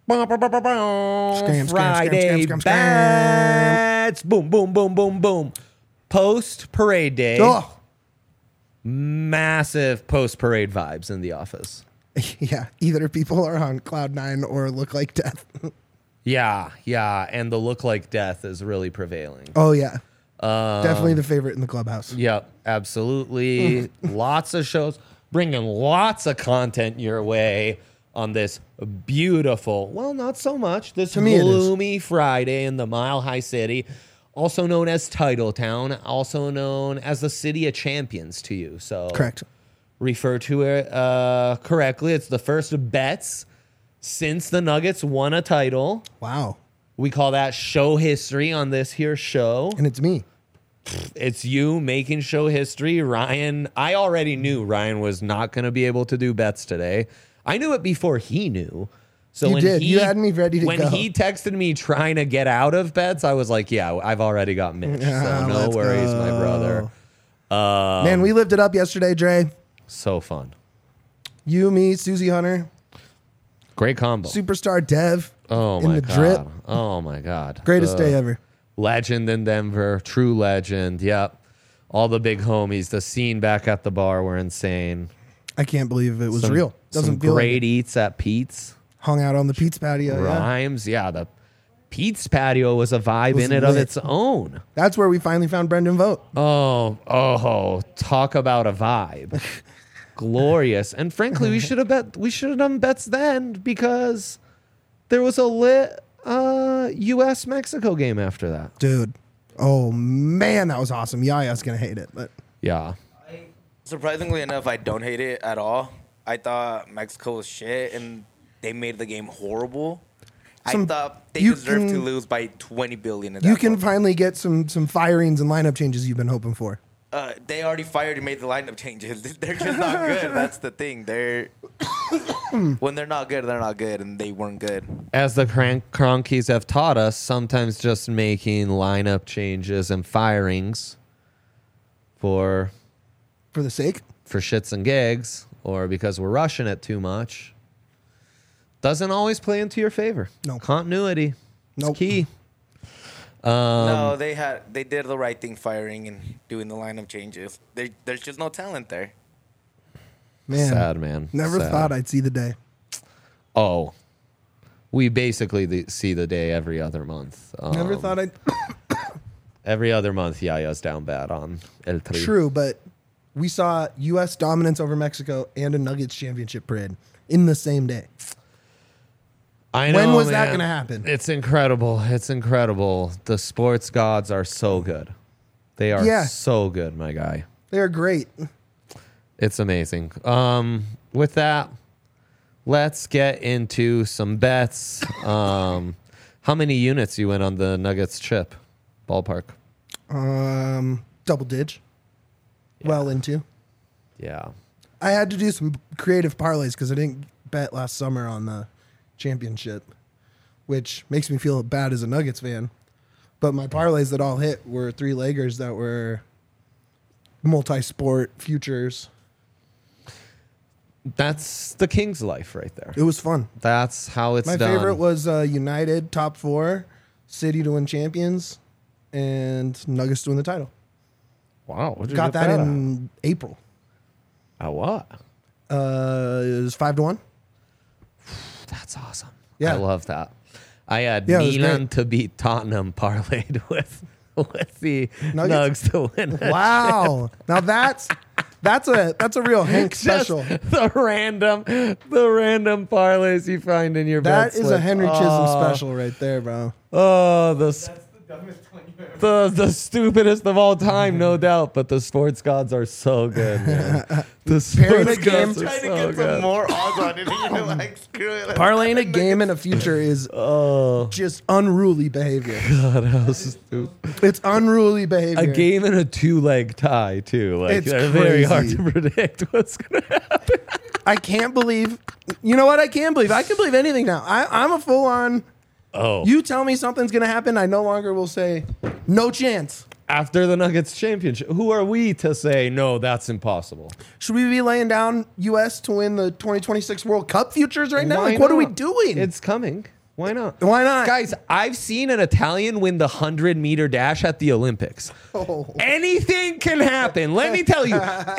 Friday bets. Boom, boom, boom, boom, boom. Post parade day. Oh. Massive post parade vibes in the office. Yeah, either people are on cloud nine or look like death. Yeah, and the look like death is really prevailing. Oh yeah, definitely the favorite in the clubhouse. Yep, absolutely. Lots of shows, bringing lots of content your way on this beautiful, well, not so much, this gloomy Friday in the Mile High City, also known as Titletown, also known as the City of Champions to you. So Correct. Refer to it correctly. It's the first bets since the Nuggets won a title. Wow. We call that show history on this here show. And it's me. It's you making show history. Ryan, I already knew Ryan was not going to be able to do bets today. I knew it before he knew. So You when did. You had me ready to when go. When he texted me trying to get out of bets, I was like, yeah, I've already got Mitch. So no Let's worries, go. my brother. Man, we lived it up yesterday, Dre. So fun. You, me, Susie Hunter, Great combo. superstar Dev Oh in my the God. drip. Oh my God. Greatest day ever. Legend in Denver. True legend. Yep. All the big homies. The scene back at the bar were insane. I can't believe it was Some- real. Doesn't some feel great like it. eats at Pete's. Hung out on the Pete's patio. Yeah. Rhymes. Yeah, the Pete's patio was a vibe Was in it of lit. its own. That's where we finally found Brendan Vogt. Oh, talk about a vibe. Glorious. And frankly, we should have done bets then because there was a lit US Mexico game after that. Dude. Oh, man, that was awesome. Yaya's going to hate it. But Yeah. Surprisingly enough, I don't hate it at all. I thought Mexico was shit, and they made the game horrible. I thought they deserved to lose by 20 billion. you can finally get some firings and lineup changes you've been hoping for. They already fired and made the lineup changes. They're just not good. That's the thing. When they're not good, they're not good, and they weren't good. As the Cronkies have taught us, sometimes just making lineup changes and firings for For the sake? shits and gigs or because we're rushing it too much doesn't always play into your favor. No. Continuity. Nope. It's key. No, they did the right thing firing and doing the lineup changes. There's just no talent there. Man. Sad, man. Never Sad. thought I'd see the day. Oh. We basically see the day every other month. Never thought I'd... Every other month, Yaya's down bad on El Tri. True, but we saw U.S. dominance over Mexico and a Nuggets championship parade in the same day. I know, When was that man. gonna happen? It's incredible. It's incredible. The sports gods are so good. They are so good, my guy. They're great. It's amazing. With that, let's get into some bets. How many units you went on the Nuggets chip? Ballpark. Double dig. Well into. Yeah. I had to do some creative parlays because I didn't bet last summer on the championship, which makes me feel bad as a Nuggets fan. But my parlays that all hit were 3-leggers that were multi-sport futures. That's the King's life right there. It was fun. That's how it's My done. favorite was United top 4, City to win champions, and Nuggets to win the title. Wow. What'd you Got get that at? in April. At what? It was 5-1. That's awesome. Yeah. I love that. I had Yeah, it was Milan great. to beat Tottenham parlayed with the Nuggets? Nugs to win. that Wow. Now that's a real Hank Just special. the random parlays you find in your That bet is a slip. Henry Chisholm special right there, bro. Oh, the stupidest of all time, no doubt. But the sports gods are so good, man. The Pairing a sports game- gods are Trying to so get some good. more odds on it, and you're like, screw it. Parlaying a game and a future is just unruly behavior. God, how stupid. It's unruly behavior. A game and a 2-leg tie too. Like It's they're very hard crazy. to predict what's gonna happen. I can't believe. You know what? I can believe. I can believe anything now. I'm a full on. Oh, You tell me something's gonna happen, I no longer will say no chance. after the Nuggets championship, who are we to say no? That's impossible. Should we be laying down U.S. to win the 2026 World Cup futures right now? Why Like, what are we not? doing? It's coming. Why not? Why not? Guys, I've seen an Italian win the 100-meter dash at the Olympics. Oh. Anything can happen. Let me tell you.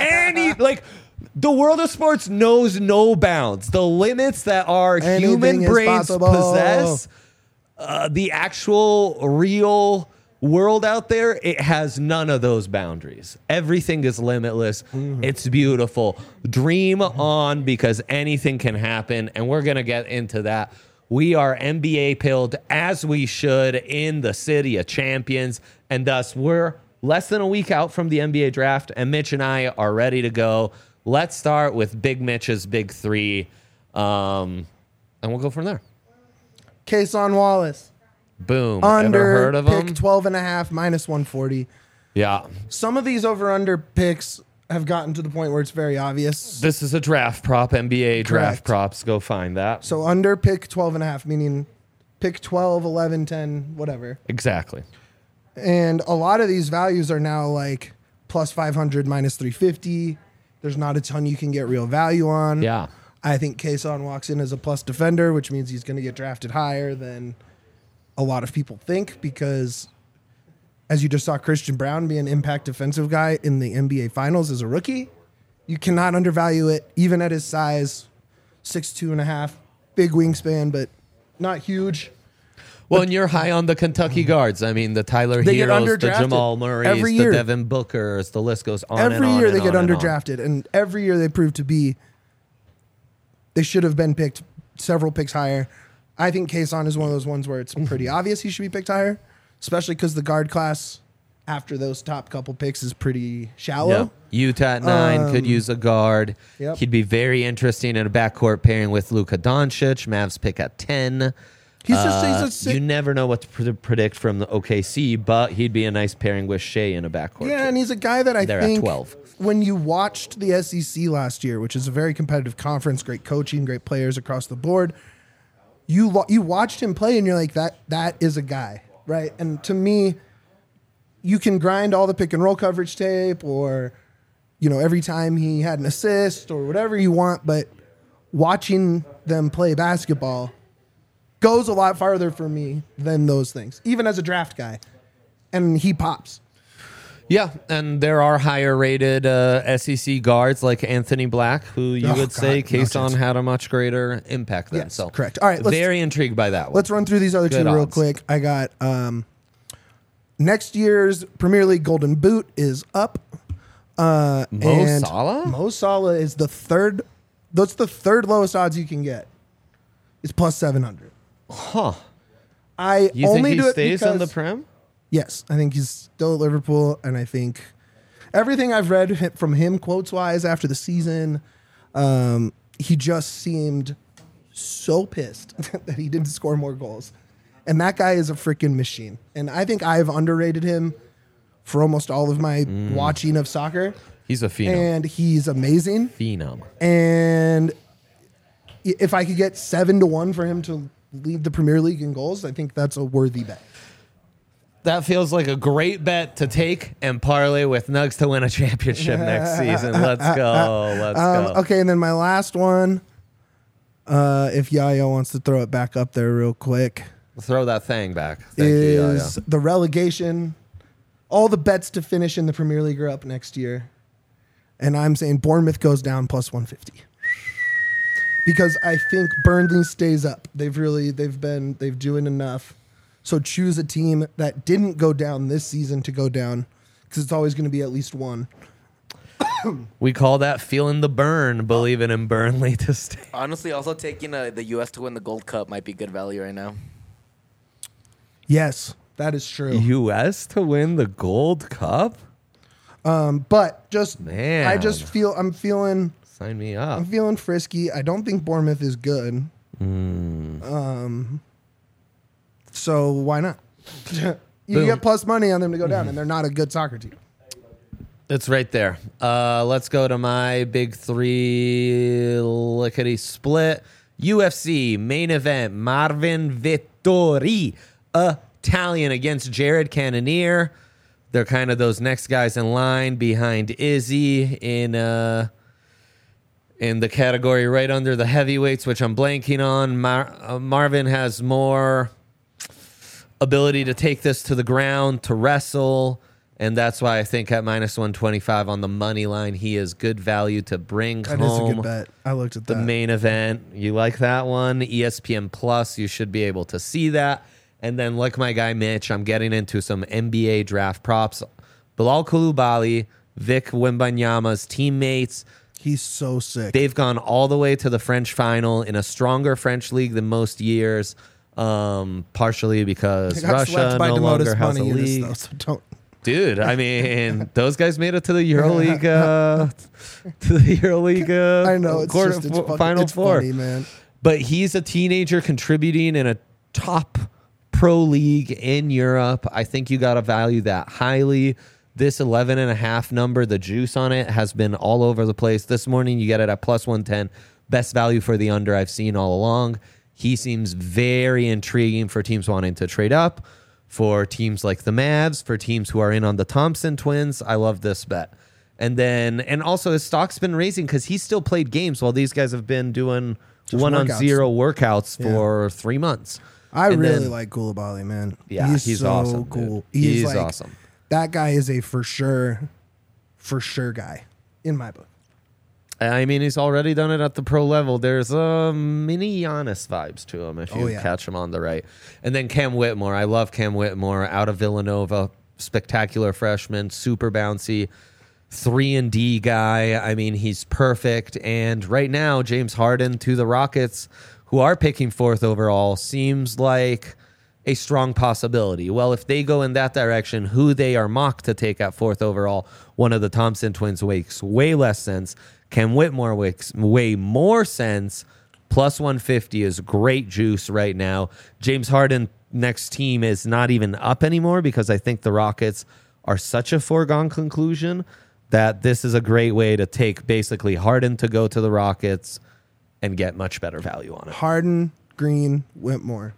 The world of sports knows no bounds. The limits that our human brains possess, the actual real world out there, it has none of those boundaries. Everything is limitless. It's beautiful. Dream on, because anything can happen, and we're going to get into that. We are NBA pilled, as we should, in the city of champions, and thus we're less than a week out from the NBA draft, and Mitch and I are ready to go. Let's start with Big Mitch's Big Three, and we'll go from there. Kason Wallace. Boom. Under, ever heard of pick him? 12.5, minus 140. Yeah. Some of these over-under picks have gotten to the point where it's very obvious. This is a draft prop, NBA draft Correct. props. Go find that. So under pick 12.5, meaning pick 12, 11, 10, whatever. Exactly. And a lot of these values are now like plus 500, minus 350. There's not a ton you can get real value on. Yeah. I think Kason walks in as a plus defender, which means he's going to get drafted higher than a lot of people think, because as you just saw Christian Brown be an impact defensive guy in the NBA Finals as a rookie, you cannot undervalue it, even at his size, 6'2.5", big wingspan, but not huge. Well, and you're high on the Kentucky guards. I mean, the Tyler They get Heroes, the underdrafted Jamal Murrays, every the year. Devin Bookers, the list goes on and Every on year and they get on and on. underdrafted, and every year they prove to be, they should have been picked several picks higher. I think Kason is one of those ones where it's pretty obvious he should be picked higher, especially because the guard class after those top couple picks is pretty shallow. Yep. Utah at 9 could use a guard. Yep. He'd be very interesting in a backcourt pairing with Luka Doncic. Mavs pick at 10. He's a sick. You never know what to predict from the OKC, but he'd be a nice pairing with Shea in a backcourt. Yeah, and he's a guy that I They're think at 12. when you watched the SEC last year, which is a very competitive conference, great coaching, great players across the board, you watched him play and you're like, that is a guy, right? And to me, you can grind all the pick and roll coverage tape, or every time he had an assist or whatever you want, but watching them play basketball goes a lot farther for me than those things, even as a draft guy. And he pops. Yeah, and there are higher rated SEC guards like Anthony Black, who you would say Kason had a much greater impact than. Yes, So correct. All right, very intrigued by that one. Let's run through these other Good two real odds. quick. I got next year's Premier League Golden Boot is up. Mo and Salah? Mo Salah is the third. That's the third lowest odds you can get. It's plus 700. Huh. I You only think do he it stays because on the Prem? yes, I think he's still at Liverpool, and I think everything I've read from him quotes wise after the season, he just seemed so pissed that he didn't score more goals. And that guy is a freaking machine. And I think I've underrated him for almost all of my watching of soccer. He's a phenom. And he's amazing. Phenom. And if I could get 7-1 for him to lead the Premier League in goals, I think that's a worthy bet. That feels like a great bet to take and parlay with Nugs to win a championship next season. Let's go. Let's go. Okay, and then my last one, if Yayo wants to throw it back up there real quick, Throw that thing back. Thank is you, the relegation. All the bets to finish in the Premier League are up next year. And I'm saying Bournemouth goes down plus 150. Because I think Burnley stays up. They've doing enough. So choose a team that didn't go down this season to go down, because it's always going to be at least one. We call that feeling the burn, believing in Burnley to stay. Honestly, also taking the U.S. to win the Gold Cup might be good value right now. Yes, that is true. U.S. to win the Gold Cup? But just Man. I'm feeling Sign me up. frisky. I don't think Bournemouth is good. So why not? You Boom. get plus money on them to go down, and they're not a good soccer team. It's right there. Let's go to my big three lickety split. UFC main event. Marvin Vettori, Italian, against Jared Cannonier. They're kind of those next guys in line behind Izzy in in the category right under the heavyweights, which I'm blanking on. Marvin has more ability to take this to the ground, to wrestle, and that's why I think at minus 125 on the money line, he is good value to bring home. That is a good bet. I looked at the main event. You like that one? ESPN Plus, you should be able to see that. And then, like my guy Mitch, I'm getting into some NBA draft props. Bilal Coulibaly, Vic Wembanyama's teammates. He's so sick. They've gone all the way to the French final in a stronger French league than most years, partially because Russia no longer has a league. Though, so don't. Dude, I mean, those guys made it to the EuroLeague, I know it's Final Four. Funny, man. But he's a teenager contributing in a top pro league in Europe. I think you got to value that highly. This 11.5 number, the juice on it has been all over the place. This morning, you get it at plus 110. Best value for the under I've seen all along. He seems very intriguing for teams wanting to trade up, for teams like the Mavs, for teams who are in on the Thompson twins. I love this bet. And also his stock's been raising because he still played games while these guys have been doing just 1-on-0 workouts for 3 months. I really like Coulibaly, man. Yeah, he's so awesome. Cool. He's like, awesome. That guy is a for sure guy in my book. I mean, he's already done it at the pro level. There's mini Giannis vibes to him if you catch him on the right. And then Cam Whitmore. I love Cam Whitmore out of Villanova. Spectacular freshman, super bouncy, 3-and-D guy. I mean, he's perfect. And right now, James Harden to the Rockets, who are picking 4th overall, seems like a strong possibility. Well, if they go in that direction, who they are mocked to take at 4th overall, one of the Thompson twins makes way less sense. Cam Whitmore makes way more sense. Plus 150 is great juice right now. James Harden next team is not even up anymore because I think the Rockets are such a foregone conclusion that this is a great way to take basically Harden to go to the Rockets and get much better value on it. Harden, Green, Whitmore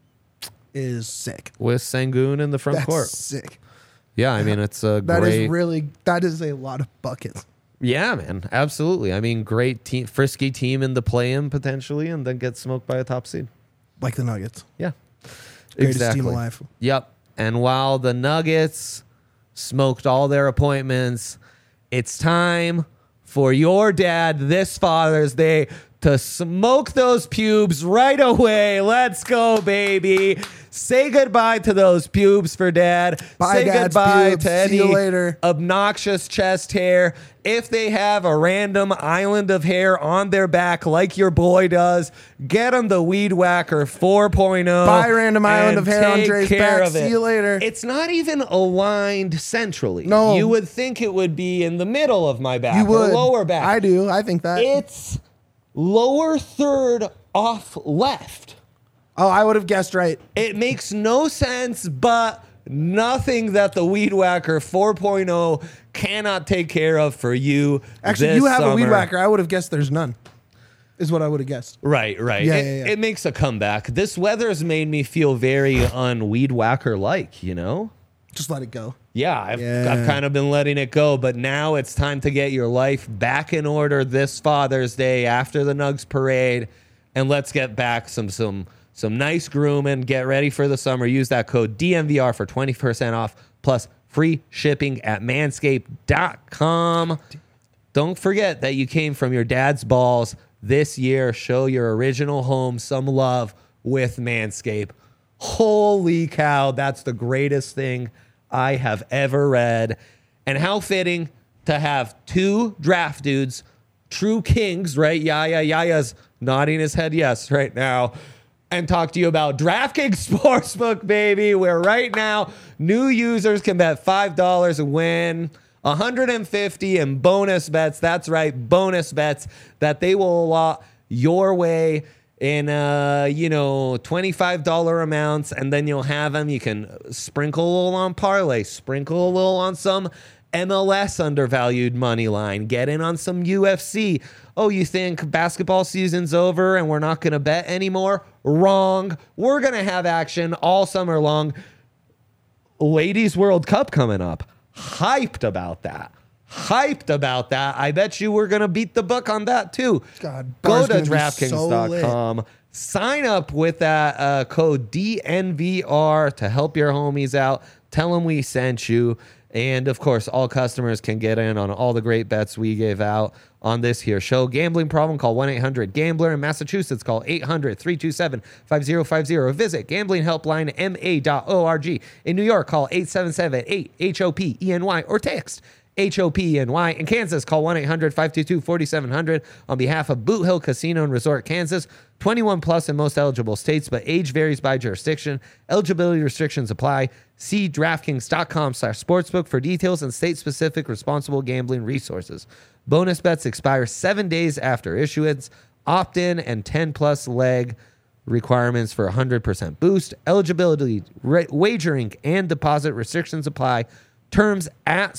is sick. With Sengun in the front court. Sick. Yeah, I mean, it's a that is a lot of buckets. Yeah, man, absolutely. I mean, great team, frisky team in the play-in potentially, and then get smoked by a top seed. Like the Nuggets. Yeah. Greatest team alive. Yep. And while the Nuggets smoked all their appointments, it's time for your dad this Father's Day to smoke those pubes right away. Let's go, baby. Say goodbye to those pubes for Dad. Bye, Say Dad's goodbye pubes. to any See you later. obnoxious chest hair. If they have a random island of hair on their back like your boy does, get them the Weed Whacker 4.0. Bye, random island of hair on Dre's back. See you later. It's not even aligned centrally. No. You would think it would be in the middle of my back You would. or lower back. I do. I think that. It's lower third off left. Oh, I would have guessed right. It makes no sense, but nothing that the Weed Whacker 4.0 cannot take care of for you. Actually, this you have summer. a Weed Whacker. I would have guessed there's none. Is what I would have guessed. Right. Yeah, It makes a comeback. This weather's made me feel very un-Weed Whacker-like, you know? Just let it go. Yeah, I've kind of been letting it go, but now it's time to get your life back in order this Father's Day after the Nugs parade, and let's get back some nice grooming. Get ready for the summer. Use that code DNVR for 20% off plus free shipping at manscaped.com. Don't forget that you came from your dad's balls this year. Show your original home some love with Manscaped. Holy cow, that's the greatest thing I have ever read. And how fitting to have two draft dudes, true kings, right? Yaya's nodding his head yes right now. And talk to you about DraftKings Sportsbook, baby, where right now new users can bet $5 and win $150 in bonus bets. That's right, bonus bets that they will allot your way in $25 amounts, and then you'll have them. You can sprinkle a little on parlay, sprinkle a little on some MLS undervalued money line, get in on some UFC. Oh, you think basketball season's over and we're not going to bet anymore? Wrong. We're going to have action all summer long. Ladies World Cup coming up. Hyped about that. hyped about that. I bet you we're going to beat the book on that too. God, go bar's to gonna be so DraftKings.com. Sign up with that code DNVR to help your homies out. Tell them we sent you. And, of course, all customers can get in on all the great bets we gave out on this here show. Gambling problem, call 1-800-GAMBLER. In Massachusetts, call 800-327-5050. Visit gamblinghelplinema.org. In New York, call 877-8-HOPENY or text HOPENY. In Kansas, call 1-800-522-4700 on behalf of Boot Hill Casino and Resort, Kansas. 21 plus in most eligible states, but age varies by jurisdiction. Eligibility restrictions apply. See DraftKings.com/sportsbook for details and state-specific responsible gambling resources. Bonus bets expire 7 days after issuance. Opt-in and 10-plus leg requirements for 100% boost. Eligibility, wagering, and deposit restrictions apply. Terms at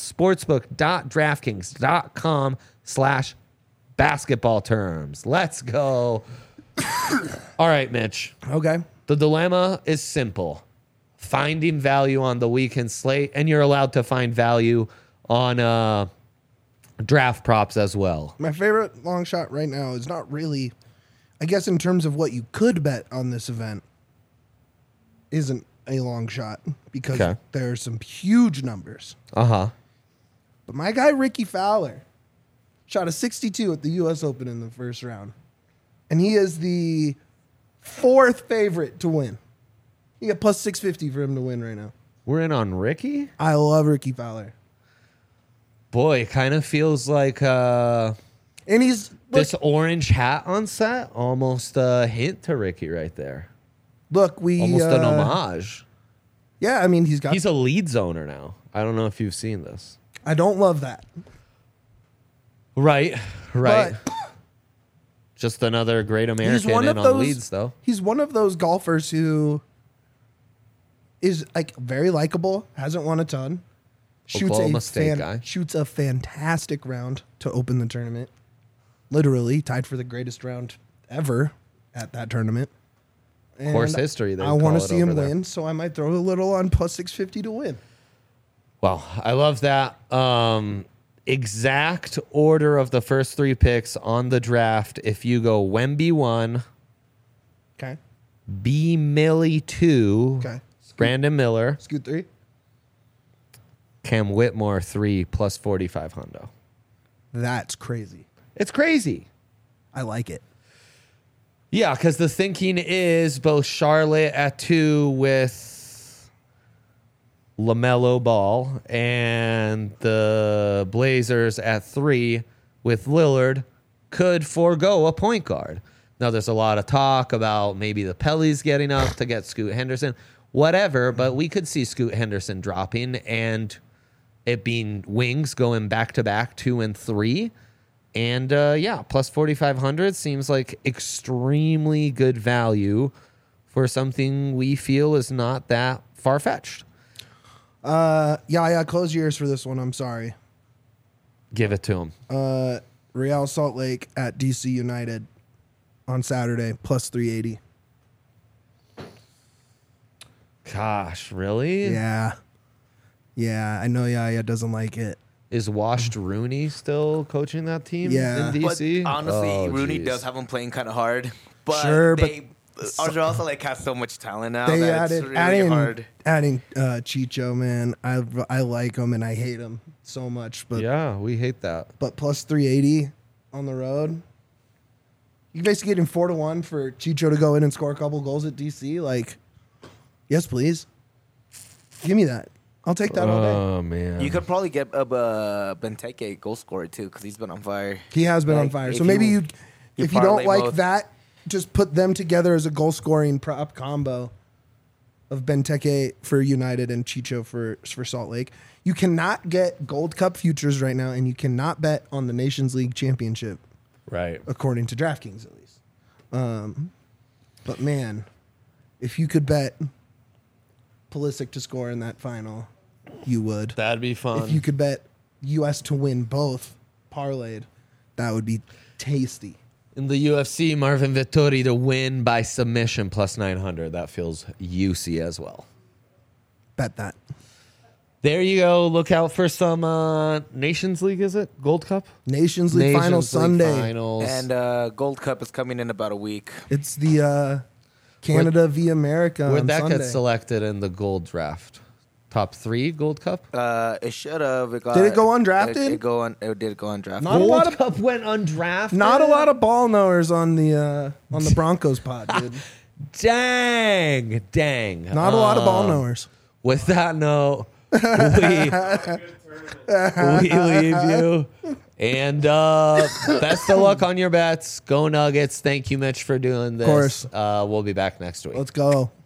sportsbook.draftkings.com/basketball terms. Let's go. All right, Mitch. Okay. The dilemma is simple. Finding value on the weekend slate, and you're allowed to find value on draft props as well. My favorite long shot right now is not really, I guess, in terms of what you could bet on this event, isn't a long shot because there are some huge numbers. Uh-huh. But my guy, Ricky Fowler, shot a 62 at the U.S. Open in the first round. And he is the fourth favorite to win. You get plus 650 for him to win right now. We're in on Ricky? I love Ricky Fowler. Boy, it kind of feels like and he's this orange hat on set, almost a hint to Ricky right there. Look, we almost an homage. Yeah, I mean, he's a lead zoner now. I don't know if you've seen this. I don't love that. Right. But just another great American on leads, though. He's one of those golfers who is like very likable, hasn't won a ton, shoots a fantastic round to open the tournament. Literally tied for the greatest round ever at that tournament. And course history. I want to see him win, so I might throw a little on plus 650 to win. Well, I love that. Exact order of the first three picks on the draft. If you go Wemby 1, okay, B Millie 2, okay, Brandon Miller, Scoot 3, Cam Whitmore 3 plus 45 hundo. That's crazy. It's crazy. I like it. Yeah, because the thinking is both Charlotte at 2 with LaMelo Ball and the Blazers at 3 with Lillard could forego a point guard. Now, there's a lot of talk about maybe the Pellies getting up to get Scoot Henderson, whatever, but we could see Scoot Henderson dropping and it being wings going back-to-back 2 and 3. And, plus 4,500 seems like extremely good value for something we feel is not that far-fetched. Close your ears for this one. I'm sorry. Give it to him. Real Salt Lake at DC United on Saturday, plus 380. Gosh, really? Yeah. Yeah, I know Yaya doesn't like it. Is Washed Rooney still coaching that team in DC? But honestly, Rooney does have him playing kind of hard. But sure, Real Salt Lake has so much talent now they that it's really hard. Adding Chicho, man, I like him and I hate him so much. But yeah, we hate that. But plus 380 on the road. You're basically getting 4-1 for Chicho to go in and score a couple goals at DC. Like, yes, please. Give me that. I'll take that all day. Oh, man. You could probably get Benteke goal scorer, too, because he's been on fire. He has been on fire. So maybe if you don't like that, just put them together as a goal-scoring prop combo of Benteke for United and Chicho for Salt Lake. You cannot get Gold Cup futures right now, and you cannot bet on the Nations League Championship. Right. According to DraftKings, at least. But, man, if you could bet Pulisic to score in that final, you would. That'd be fun. If you could bet U.S. to win both parlayed, that would be tasty. In the UFC, Marvin Vettori to win by submission plus 900. That feels juicy as well. Bet that. there you go. Look out for some Nations League. Is it Gold Cup? Nations League final Sunday, finals. And Gold Cup is coming in about a week. It's the Canada v America. Where'd on that Sunday. get selected in the Gold Draft? Top 3 Gold Cup. It should have. Did it go undrafted? It did go undrafted. Not a Gold lot of- Cup went undrafted. Not a lot of ball knowers on the Broncos pod, dude. Dang. Not a lot of ball knowers. With that note, we leave you. And best of luck on your bets. Go Nuggets. Thank you, Mitch, for doing this. Of course. We'll be back next week. Let's go.